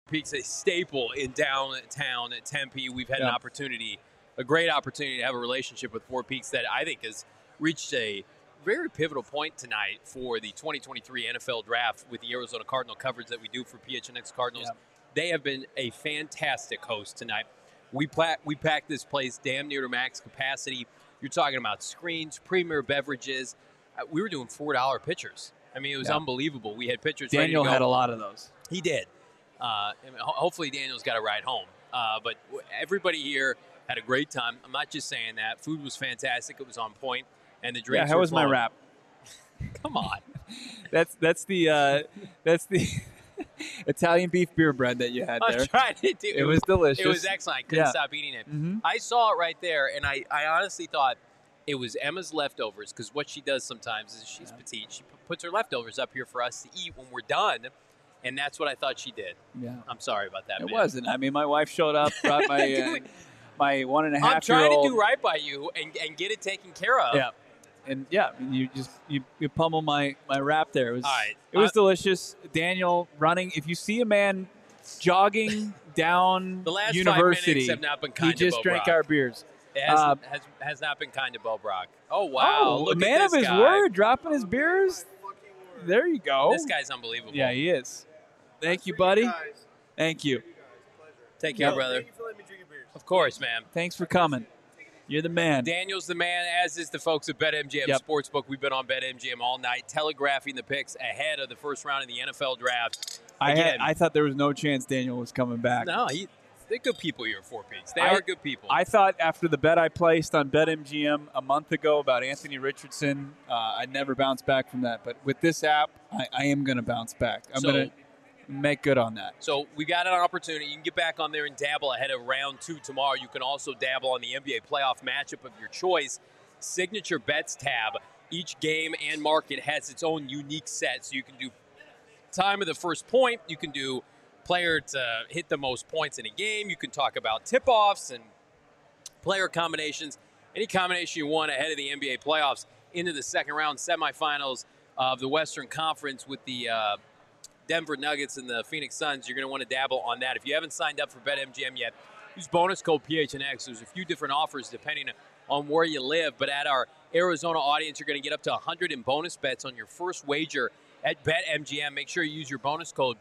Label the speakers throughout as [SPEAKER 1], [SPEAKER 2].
[SPEAKER 1] Peaks, a staple in downtown at Tempe. We've had a great opportunity to have a relationship with Four Peaks that I think has reached a very pivotal point tonight for the 2023 NFL Draft with the Arizona Cardinal coverage that we do for PHNX Cardinals. Yeah. They have been a fantastic host tonight. We packed this place damn near to max capacity. You're talking about screens, premier beverages. We were doing $4 pitchers. I mean, it was unbelievable. We had pitchers ready to go.
[SPEAKER 2] Daniel had a lot of those.
[SPEAKER 1] He did. Hopefully Daniel's got a ride home. But everybody here had a great time. I'm not just saying that. Food was fantastic. It was on point. And the drinks
[SPEAKER 2] how was my wrap?
[SPEAKER 1] Come on.
[SPEAKER 2] That's the Italian beef beer bread that you had there.
[SPEAKER 1] I tried it, too.
[SPEAKER 2] It was delicious.
[SPEAKER 1] It was excellent. I couldn't stop eating it.
[SPEAKER 2] Mm-hmm.
[SPEAKER 1] I saw it right there, and I honestly thought it was Emma's leftovers, because what she does sometimes is she's petite. She puts her leftovers up here for us to eat when we're done, and that's what I thought she did.
[SPEAKER 2] Yeah.
[SPEAKER 1] I'm sorry about that,
[SPEAKER 2] It wasn't. I mean, my wife showed up, brought my my 1.5-year-old.
[SPEAKER 1] I'm trying to do right by you and get it taken care of.
[SPEAKER 2] Yeah. And you pummel my wrap there. It was
[SPEAKER 1] all right.
[SPEAKER 2] It was delicious. Daniel running. If you see a man jogging down
[SPEAKER 1] the last
[SPEAKER 2] University,
[SPEAKER 1] 5 minutes have not been kind
[SPEAKER 2] he just
[SPEAKER 1] to Bo
[SPEAKER 2] drank
[SPEAKER 1] Brock.
[SPEAKER 2] Our beers.
[SPEAKER 1] It has not been kind to Bo Brock. Oh wow! Look
[SPEAKER 2] a man
[SPEAKER 1] at this
[SPEAKER 2] of his
[SPEAKER 1] guy.
[SPEAKER 2] word, dropping his beers. There you go.
[SPEAKER 1] This guy's unbelievable.
[SPEAKER 2] Yeah, he is. Thank you, buddy. Thank you.
[SPEAKER 1] Take care, brother.
[SPEAKER 3] Thank you for letting me drink your beers.
[SPEAKER 1] Of course, man.
[SPEAKER 2] Thanks for coming. You're the man.
[SPEAKER 1] Daniel's the man, as is the folks at BetMGM Sportsbook. We've been on BetMGM all night, telegraphing the picks ahead of the first round of the NFL Draft.
[SPEAKER 2] I thought there was no chance Daniel was coming back.
[SPEAKER 1] No, they're good people here at Four Peaks. They are good people.
[SPEAKER 2] I thought after the bet I placed on BetMGM a month ago about Anthony Richardson, I'd never bounce back from that. But with this app, I am going to bounce back. I'm going to make good on that.
[SPEAKER 1] So we got an opportunity. You can get back on there and dabble ahead of round 2 tomorrow. You can also dabble on the NBA playoff matchup of your choice. Signature Bets tab. Each game and market has its own unique set. So you can do time of the first point. You can do player to hit the most points in a game. You can talk about tip-offs and player combinations. Any combination you want ahead of the NBA playoffs into the second round semifinals of the Western Conference with the Denver Nuggets and the Phoenix Suns. You're going to want to dabble on that. If you haven't signed up for BetMGM yet, use bonus code PHNX. There's a few different offers depending on where you live. But at our Arizona audience, you're going to get up to 100 in bonus bets on your first wager at BetMGM. Make sure you use your bonus code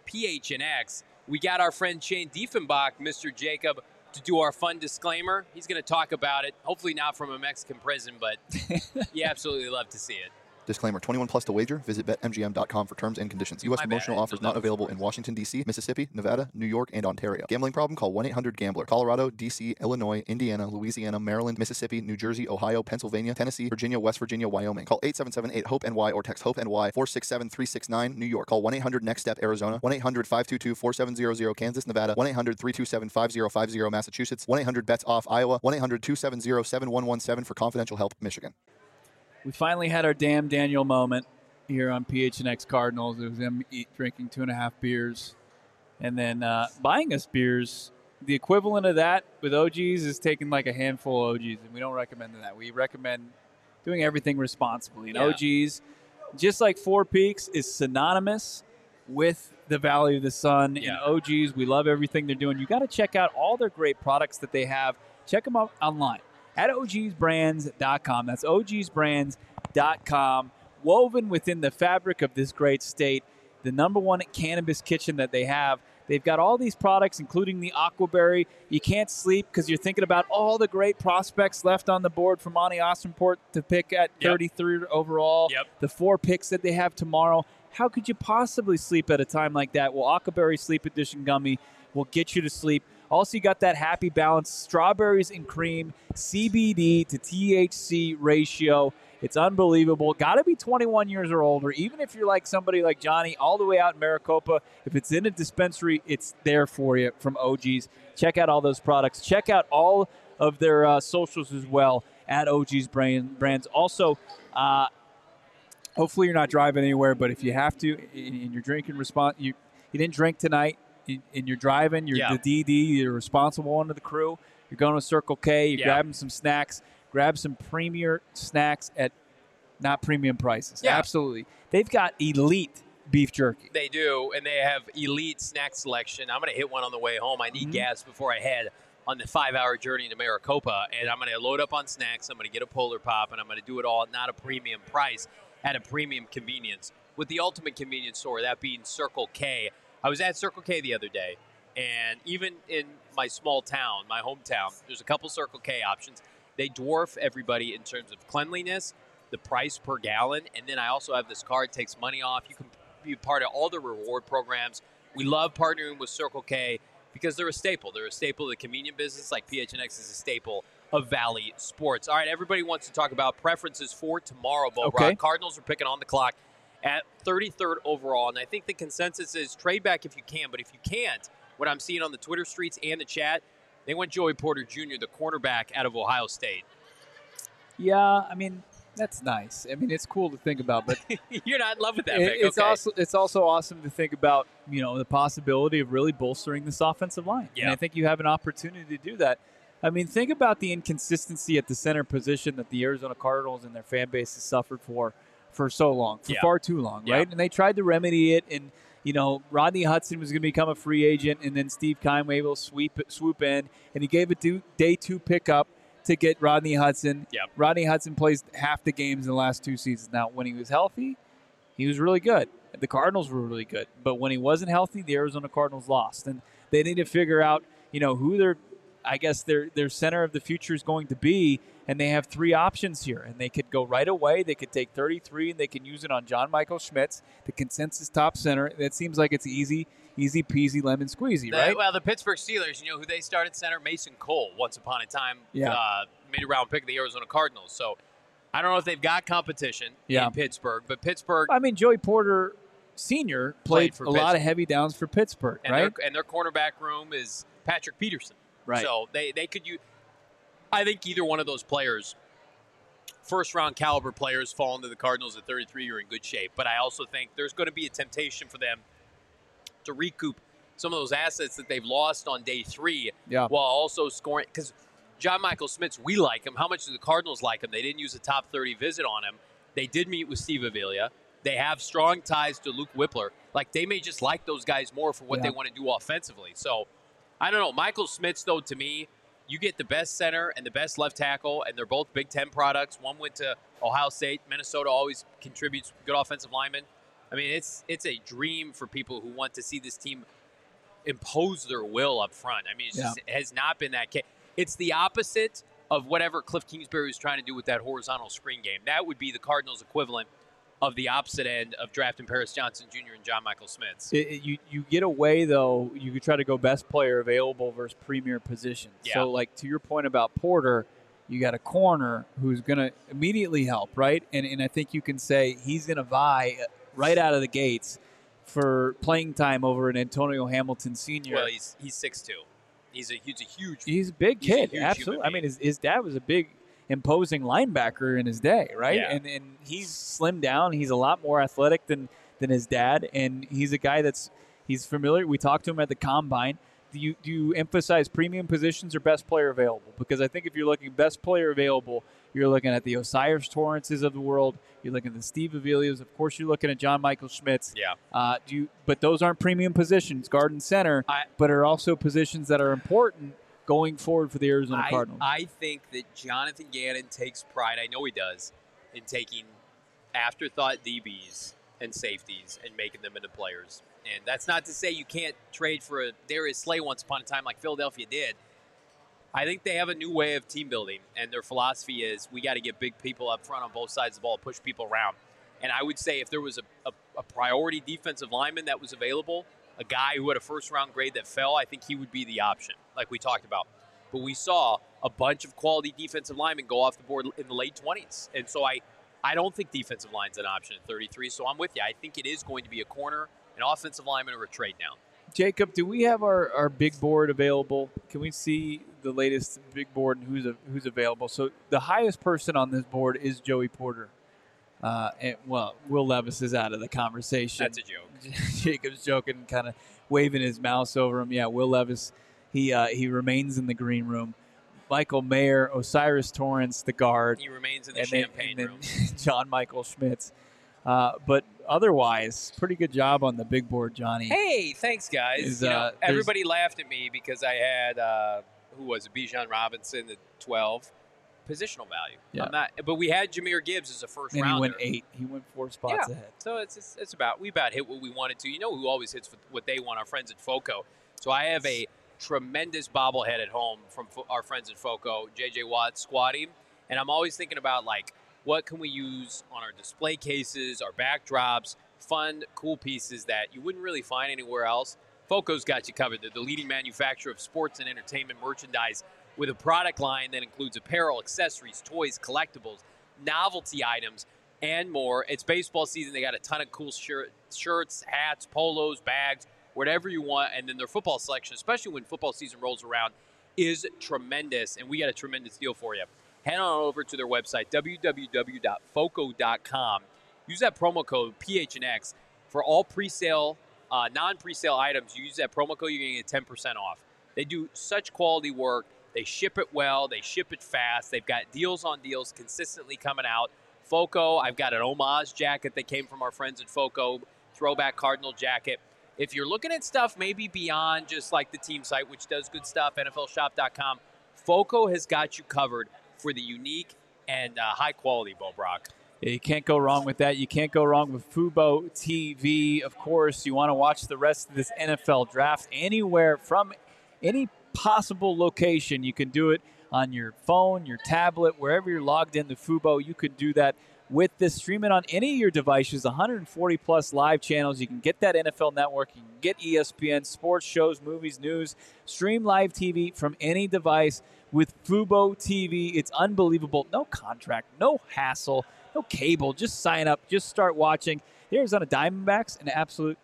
[SPEAKER 1] PHNX. We got our friend Shane Diefenbach, Mr. Jacob, to do our fun disclaimer. He's going to talk about it, hopefully not from a Mexican prison, but you absolutely love to see it.
[SPEAKER 4] Disclaimer, 21 plus to wager. Visit BetMGM.com for terms and conditions. U.S. promotional offers not available in Washington, D.C., Mississippi, Nevada, New York, and Ontario. Gambling problem? Call 1-800-GAMBLER. Colorado, D.C., Illinois, Indiana, Louisiana, Maryland, Mississippi, New Jersey, Ohio, Pennsylvania, Tennessee, Virginia, West Virginia, Wyoming. Call 877-8-HOPE-NY or text HOPE-NY 467-369, New York. Call 1-800-NEXT-STEP, Arizona. 1-800-522-4700, Kansas, Nevada. 1-800-327-5050, Massachusetts. 1-800-BETS-OFF, Iowa. 1-800-270-7117 for confidential help, Michigan.
[SPEAKER 2] We finally had our damn Daniel moment here on PHNX Cardinals. It was him drinking 2.5 beers and then buying us beers. The equivalent of that with OGs is taking like a handful of OGs, and we don't recommend that. We recommend doing everything responsibly. And OGs, just like Four Peaks, is synonymous with the Valley of the Sun. And OGs, we love everything they're doing. You got to check out all their great products that they have. Check them out online at ogsbrands.com. That's ogsbrands.com. Woven within the fabric of this great state, the number one cannabis kitchen that they have. They've got all these products, including the Aquaberry. You can't sleep because you're thinking about all the great prospects left on the board for Monty Austinport to pick at 33 overall. The 4 picks that they have tomorrow. How could you possibly sleep at a time like that? Well, Aquaberry Sleep Edition Gummy will get you to sleep. Also, you got that happy balance, strawberries and cream, CBD to THC ratio. It's unbelievable. Got to be 21 years or older. Even if you're like somebody like Johnny all the way out in Maricopa, if it's in a dispensary, it's there for you from OGs. Check out all those products. Check out all of their socials as well at OGs Brands. Also, hopefully you're not driving anywhere, but if you have to and you're drinking, you didn't drink tonight, and you're driving, you're the DD, you're a responsible one of the crew, you're going to Circle K, you're grabbing some snacks, grab some premier snacks at not premium prices. Absolutely. They've got elite beef jerky.
[SPEAKER 1] They do, and they have elite snack selection. I'm going to hit one on the way home. I need gas before I head on the 5-hour journey to Maricopa, and I'm going to load up on snacks. I'm going to get a Polar Pop, and I'm going to do it all at not a premium price, at a premium convenience. With the ultimate convenience store, that being Circle K. I was at Circle K the other day, and even in my small town, my hometown, there's a couple Circle K options. They dwarf everybody in terms of cleanliness, the price per gallon, and then I also have this card, takes money off. You can be part of all the reward programs. We love partnering with Circle K because they're a staple. They're a staple of the convenient business, like PHNX is a staple of Valley Sports. All right, everybody wants to talk about preferences for tomorrow, Bo
[SPEAKER 2] Okay.
[SPEAKER 1] Brock. Cardinals are picking on the clock at 33rd overall, and I think the consensus is trade back if you can, but if you can't, what I'm seeing on the Twitter streets and the chat, they went Joey Porter Jr., the cornerback out of Ohio State.
[SPEAKER 2] Yeah, I mean, that's nice. I mean, it's cool to think about, but
[SPEAKER 1] You're not in love with that pick.
[SPEAKER 2] it's
[SPEAKER 1] Okay.
[SPEAKER 2] also awesome to think about, the possibility of really bolstering this offensive line.
[SPEAKER 1] Yeah.
[SPEAKER 2] And I think you have an opportunity to do that. I mean, think about the inconsistency at the center position that the Arizona Cardinals and their fan base has suffered for so long, for
[SPEAKER 1] Yeah.
[SPEAKER 2] far too long,
[SPEAKER 1] Yeah.
[SPEAKER 2] right? And they tried to remedy it, and Rodney Hudson was going to become a free agent, and then Steve Keim was able to swoop in, and he gave a day 2 pickup to get Rodney Hudson.
[SPEAKER 1] Yep.
[SPEAKER 2] Rodney Hudson plays half the games in the last 2 seasons. Now, when he was healthy, he was really good. The Cardinals were really good. But when he wasn't healthy, the Arizona Cardinals lost. And they need to figure out, who their center of the future is going to be. And they have 3 options here. And they could go right away. They could take 33, and they can use it on John Michael Schmitz, the consensus top center. That seems like it's easy peasy, lemon squeezy, right?
[SPEAKER 1] Well, the Pittsburgh Steelers, who they started center? Mason Cole, once upon a time, mid-round pick of the Arizona Cardinals. So I don't know if they've got competition in Pittsburgh, but Pittsburgh.
[SPEAKER 2] I mean, Joey Porter Sr. played
[SPEAKER 1] for
[SPEAKER 2] a lot of heavy downs for Pittsburgh,
[SPEAKER 1] and
[SPEAKER 2] right?
[SPEAKER 1] Their cornerback room is Patrick Peterson.
[SPEAKER 2] Right.
[SPEAKER 1] So they could use. I think either one of those players, first-round caliber players, fall into the Cardinals at 33 are in good shape. But I also think there's going to be a temptation for them to recoup some of those assets that they've lost on day 3 while also scoring. Because John Michael Schmitz, we like him. How much do the Cardinals like him? They didn't use a top 30 visit on him. They did meet with Steve Avila. They have strong ties to Luke Whippler. Like, they may just like those guys more for what they want to do offensively. So, I don't know. Michael Schmitz, though, to me, you get the best center and the best left tackle, and they're both Big Ten products. One went to Ohio State. Minnesota always contributes good offensive linemen. I mean, it's a dream for people who want to see this team impose their will up front. I mean, it has not been that case. It's the opposite of whatever Cliff Kingsbury was trying to do with that horizontal screen game. That would be the Cardinals' equivalent of the opposite end of drafting Paris Johnson Jr. and John Michael Schmitz.
[SPEAKER 2] You get away, though, you could try to go best player available versus premier position.
[SPEAKER 1] Yeah.
[SPEAKER 2] So, like, to your point about Porter, you got a corner who's going to immediately help, right? And I think you can say he's going to vie right out of the gates for playing time over an Antonio Hamilton Sr.
[SPEAKER 1] Well, he's 6'2". He's a huge.
[SPEAKER 2] He's a big
[SPEAKER 1] he's a
[SPEAKER 2] kid,
[SPEAKER 1] huge
[SPEAKER 2] absolutely. I
[SPEAKER 1] human
[SPEAKER 2] mean, his dad was a big, imposing linebacker in his day, right?
[SPEAKER 1] Yeah.
[SPEAKER 2] And he's slimmed down. He's a lot more athletic than his dad, and he's a guy he's familiar. We talked to him at the Combine. Do you emphasize premium positions or best player available? Because I think if you're looking best player available, you're looking at the Osiris Torrances of the world. You're looking at the Steve Avilias. Of course, you're looking at John Michael Schmitz.
[SPEAKER 1] Yeah.
[SPEAKER 2] But those aren't premium positions, guard and center, but are also positions that are important going forward for the Arizona Cardinals.
[SPEAKER 1] I think that Jonathan Gannon takes pride, I know he does, in taking afterthought DBs and safeties and making them into players. And that's not to say you can't trade for a Darius Slay once upon a time like Philadelphia did. I think they have a new way of team building, and their philosophy is we got to get big people up front on both sides of the ball, push people around. And I would say if there was a priority defensive lineman that was available, a guy who had a first-round grade that fell, I think he would be the option, like we talked about. But we saw a bunch of quality defensive linemen go off the board in the late 20s. And so I don't think defensive line's an option at 33, so I'm with you. I think it is going to be a corner, an offensive lineman, or a trade down.
[SPEAKER 2] Jacob, do we have our big board available? Can we see the latest big board and who's available? So the highest person on this board is Joey Porter. Will Levis is out of the conversation.
[SPEAKER 1] That's a joke.
[SPEAKER 2] Jacob's joking, kind of waving his mouse over him. Yeah, Will Levis, he remains in the green room. Michael Mayer, Osiris Torrance, the guard.
[SPEAKER 1] He remains in the champagne room.
[SPEAKER 2] John Michael Schmitz. But otherwise, pretty good job on the big board, Johnny.
[SPEAKER 1] Hey, thanks, guys.
[SPEAKER 2] Is,
[SPEAKER 1] everybody laughed at me because I had, who was it, Bijan Robinson, the 12. Positional value.
[SPEAKER 2] Yeah.
[SPEAKER 1] But we had Jahmyr Gibbs as a first
[SPEAKER 2] And
[SPEAKER 1] rounder.
[SPEAKER 2] he went 8. He went 4 spots ahead.
[SPEAKER 1] So we about hit what we wanted to. You know who always hits what they want, our friends at FOCO. So I have a tremendous bobblehead at home from our friends at FOCO, JJ Watt Squatty. And I'm always thinking about, like, what can we use on our display cases, our backdrops, fun, cool pieces that you wouldn't really find anywhere else. FOCO's got you covered. They're the leading manufacturer of sports and entertainment merchandise with a product line that includes apparel, accessories, toys, collectibles, novelty items, and more. It's baseball season. They got a ton of cool shirts, hats, polos, bags, whatever you want. And then their football selection, especially when football season rolls around, is tremendous. And we got a tremendous deal for you. Head on over to their website, www.foco.com. Use that promo code PHNX for all pre-sale, non-pre-sale items. You use that promo code, you're going to get 10% off. They do such quality work. They ship it well. They ship it fast. They've got deals on deals consistently coming out. FOCO, I've got an homage jacket that came from our friends at FOCO, throwback Cardinal jacket. If you're looking at stuff maybe beyond just like the team site, which does good stuff, NFLshop.com, FOCO has got you covered for the unique and high quality, Bo Brock.
[SPEAKER 2] Yeah, you can't go wrong with that. You can't go wrong with Fubo TV. Of course, you want to watch the rest of this NFL draft anywhere from any possible location. You can do it on your phone, your tablet, wherever you're logged into Fubo. You could do that with this. Stream it on any of your devices, 140 plus live channels. You can get that NFL Network. You can get ESPN, sports shows, movies, news. Stream live TV from any device with Fubo TV. It's unbelievable. No contract, no hassle, no cable. Just sign up. Just start watching. The Arizona Diamondbacks, an absolute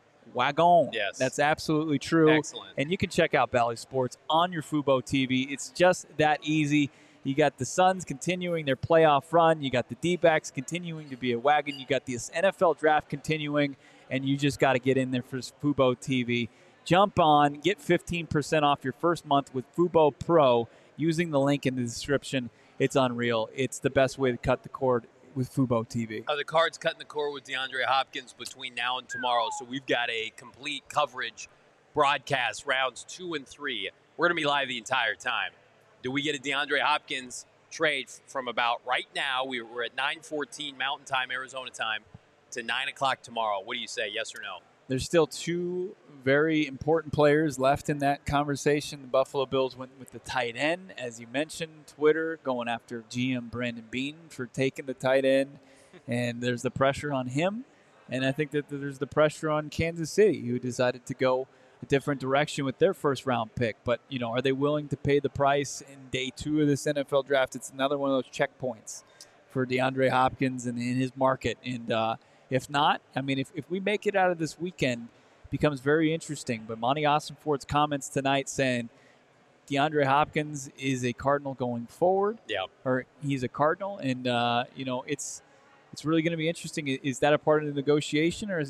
[SPEAKER 2] wagon.
[SPEAKER 1] Yes.
[SPEAKER 2] That's absolutely true.
[SPEAKER 1] Excellent.
[SPEAKER 2] And you can check out Bally Sports on your Fubo TV. It's just that easy. You got the Suns continuing their playoff run. You got the D-backs continuing to be a wagon. You got this NFL draft continuing, and you just got to get in there for Fubo TV. Jump on, get 15% off your first month with Fubo Pro using the link in the description. It's unreal. It's the best way to cut the cord with Fubo TV.
[SPEAKER 1] The Cards cutting the cord with DeAndre Hopkins between now and tomorrow, so we've got a complete coverage broadcast, rounds 2 and 3. We're going to be live the entire time. Do we get a DeAndre Hopkins trade from about right now? We're at 9:14 Mountain Time, Arizona time, to 9 o'clock tomorrow. What do you say, yes or no?
[SPEAKER 2] There's still 2 very important players left in that conversation. The Buffalo Bills went with the tight end, as you mentioned. Twitter going after GM Brandon Beane for taking the tight end, and there's the pressure on him. And I think that there's the pressure on Kansas City, who decided to go a different direction with their first-round pick. But, you know, are they willing to pay the price in day 2 of this NFL draft? It's another one of those checkpoints for DeAndre Hopkins and in his market. And if not, I mean, if we make it out of this weekend, it becomes very interesting. But Monty Ossenfort's comments tonight saying DeAndre Hopkins is a Cardinal going forward.
[SPEAKER 1] Yeah. Or
[SPEAKER 2] he's a Cardinal. And, you know, it's really going to be interesting. Is that a part of the negotiation, or is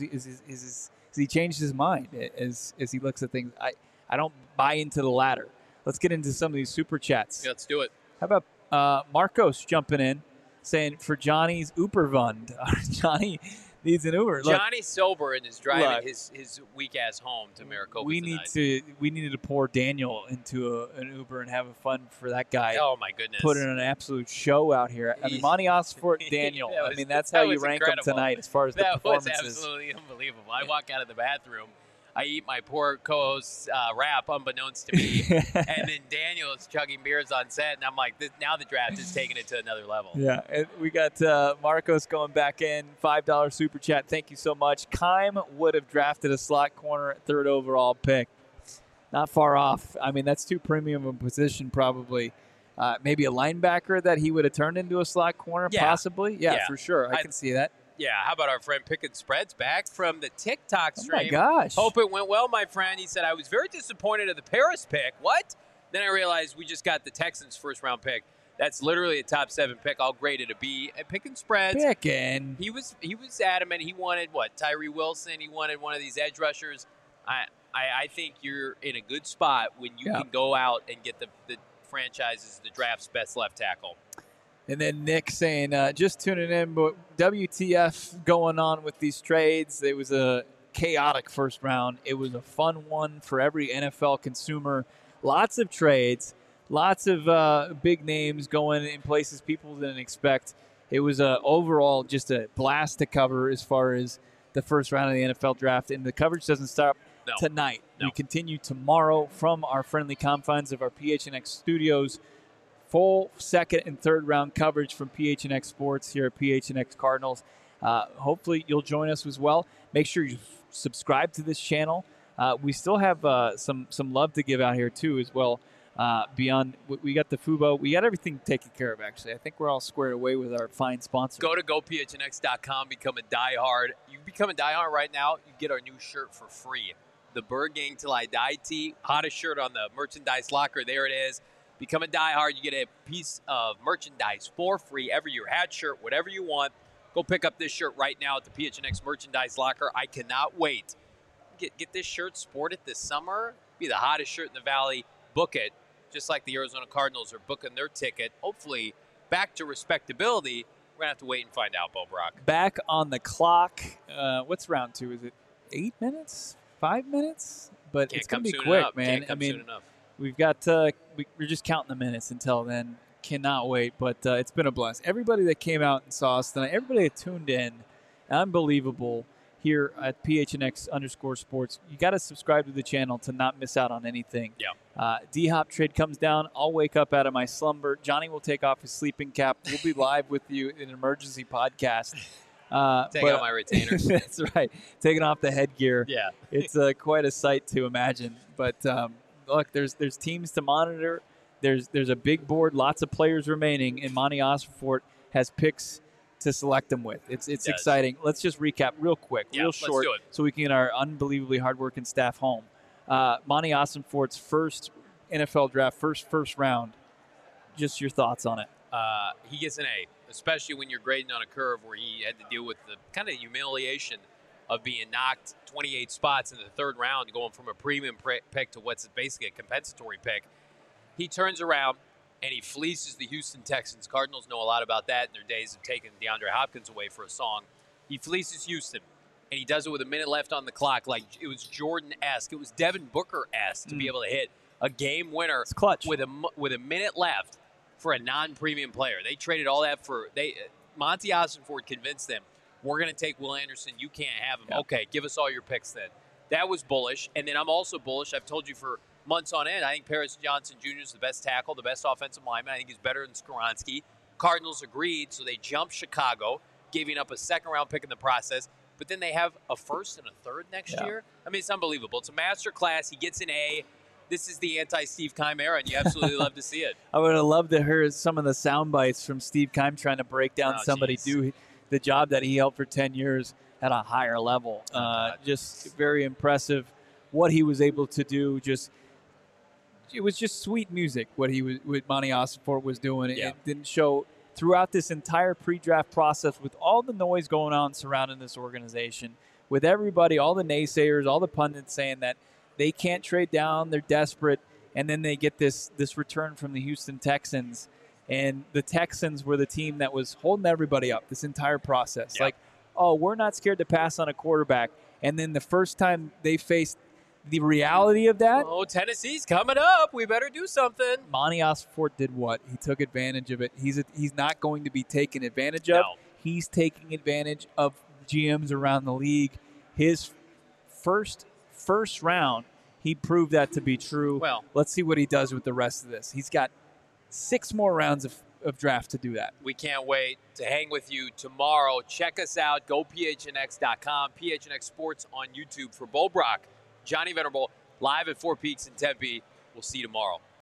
[SPEAKER 2] he changed his mind as he looks at things? I don't buy into the latter. Let's get into some of these super chats.
[SPEAKER 1] Yeah, let's do it.
[SPEAKER 2] How about Marcos jumping in, saying for Johnny's Uberfund. Johnny needs an Uber. Look,
[SPEAKER 1] Johnny's sober and is driving his weak ass home to Maricopa
[SPEAKER 2] we needed to pour Daniel into an Uber and have fun for that guy.
[SPEAKER 1] Oh my goodness!
[SPEAKER 2] Put in an absolute show out here. I mean, Monty Ossenfort, Daniel. That's how you rank them tonight as far as the performances.
[SPEAKER 1] That was absolutely unbelievable. I walk out of the bathroom. I eat my poor co-host's wrap, unbeknownst to me, and then Daniel is chugging beers on set, and I'm like, now the draft is taking it to another level.
[SPEAKER 2] Yeah, and we got Marcos going back in, $5 super chat. Thank you so much. Keim would have drafted a slot corner at 3rd overall pick. Not far off. I mean, that's too premium of a position probably. Maybe a linebacker that he would have turned into a slot corner, possibly. Yeah, for sure. I can see that.
[SPEAKER 1] Yeah, how about our friend Picking Spreads back from the TikTok stream?
[SPEAKER 2] Oh, my gosh.
[SPEAKER 1] Hope it went well, my friend. He said, I was very disappointed at the Paris pick. What? Then I realized we just got the Texans' first-round pick. That's literally a top 7 pick. I'll grade it a B. At Picking Spreads, he was adamant. He wanted, Tyree Wilson. He wanted one of these edge rushers. I think you're in a good spot when you can go out and get the franchise's, the draft's best left tackle.
[SPEAKER 2] And then Nick saying, just tuning in, but WTF going on with these trades? It was a chaotic first round. It was a fun one for every NFL consumer. Lots of trades, lots of big names going in places people didn't expect. It was overall just a blast to cover as far as the first round of the NFL draft. And the coverage doesn't stop tonight.
[SPEAKER 1] No.
[SPEAKER 2] We continue tomorrow from our friendly confines of our PHNX studios. Full second and third round coverage from PHNX Sports here at PHNX Cardinals. Hopefully you'll join us as well. Make sure you subscribe to this channel. We still have some love to give out here too as well. Beyond, we got the Fubo. We got everything taken care of, actually. I think we're all squared away with our fine sponsor.
[SPEAKER 1] Go to gophnx.com, become a diehard. You become a diehard right now, you get our new shirt for free. The Bird Gang Till I Die tee, hottest shirt on the merchandise locker. There it is. Become a diehard. You get a piece of merchandise for free every year. Hat, shirt, whatever you want. Go pick up this shirt right now at the PHNX merchandise locker. I cannot wait. Get this shirt, sport it this summer. Be the hottest shirt in the Valley. Book it, just like the Arizona Cardinals are booking their ticket. Hopefully, back to respectability. We're going to have to wait and find out, Bo Brock.
[SPEAKER 2] Back on the clock. What's round two? Is it 8 minutes? 5 minutes? But it's going to be quick, man. I mean, we've got we're just counting the minutes until then. Cannot wait, but it's been a blast. Everybody that came out and saw us tonight, everybody that tuned in, unbelievable here at PHNX_sports. You got to subscribe to the channel to not miss out on anything.
[SPEAKER 1] Yeah.
[SPEAKER 2] D-Hop trade comes down. I'll wake up out of my slumber. Johnny will take off his sleeping cap. We'll be live with you in an emergency podcast.
[SPEAKER 1] Take out my retainer.
[SPEAKER 2] That's right. Taking off the headgear.
[SPEAKER 1] Yeah.
[SPEAKER 2] It's quite a sight to imagine. But look, there's teams to monitor. There's a big board, lots of players remaining, and Monty Ossenfort has picks to select them with. It's exciting. Let's just recap real quick, real short, so we can get our unbelievably hardworking staff home. Monty Ossenfort's first NFL draft, first round. Just your thoughts on it.
[SPEAKER 1] He gets an A, especially when you're grading on a curve where he had to deal with the kind of humiliation of being knocked 28 spots in the third round, going from a premium pick to what's basically a compensatory pick. He turns around and he fleeces the Houston Texans. Cardinals know a lot about that in their days of taking DeAndre Hopkins away for a song. He fleeces Houston, and he does it with a minute left on the clock, like it was Jordan-esque. It was Devin Booker-esque to be able to hit a game winner with a minute left for a non-premium player. They traded all that for Monty Ossenfort convinced them, we're going to take Will Anderson. You can't have him. Yeah. Okay, give us all your picks then. That was bullish. And then I'm also bullish. I've told you for months on end, I think Paris Johnson Jr. is the best tackle, the best offensive lineman. I think he's better than Skoronski. Cardinals agreed, so they jumped Chicago, giving up a second-round pick in the process. But then they have a first and a third next year. I mean, it's unbelievable. It's a master class. He gets an A. This is the anti-Steve Keim era, and you absolutely love to see it.
[SPEAKER 2] I would have loved to hear some of the sound bites from Steve Keim trying to break down somebody do the job that he held for 10 years at a higher level. Just very impressive what he was able to do. It was just sweet music what Monty Ossenfort was doing.
[SPEAKER 1] Yeah.
[SPEAKER 2] It didn't show throughout this entire pre-draft process with all the noise going on surrounding this organization, with everybody, all the naysayers, all the pundits saying that they can't trade down, they're desperate, and then they get this return from the Houston Texans. And the Texans were the team that was holding everybody up this entire process.
[SPEAKER 1] Yeah.
[SPEAKER 2] Like, oh, we're not scared to pass on a quarterback. And then the first time they faced the reality of that.
[SPEAKER 1] Oh, Tennessee's coming up. We better do something.
[SPEAKER 2] Monty Ossenfort did what? He took advantage of it. He's not going to be taken advantage of.
[SPEAKER 1] No.
[SPEAKER 2] He's taking advantage of GMs around the league. His first round, he proved that to be true.
[SPEAKER 1] Well,
[SPEAKER 2] let's see what he does with the rest of this. He's got 6 more rounds of draft to do that.
[SPEAKER 1] We can't wait to hang with you tomorrow. Check us out. Go PHNX.com. PHNX Sports on YouTube for Bo Brock. Johnny Venerable, live at Four Peaks in Tempe. We'll see you tomorrow.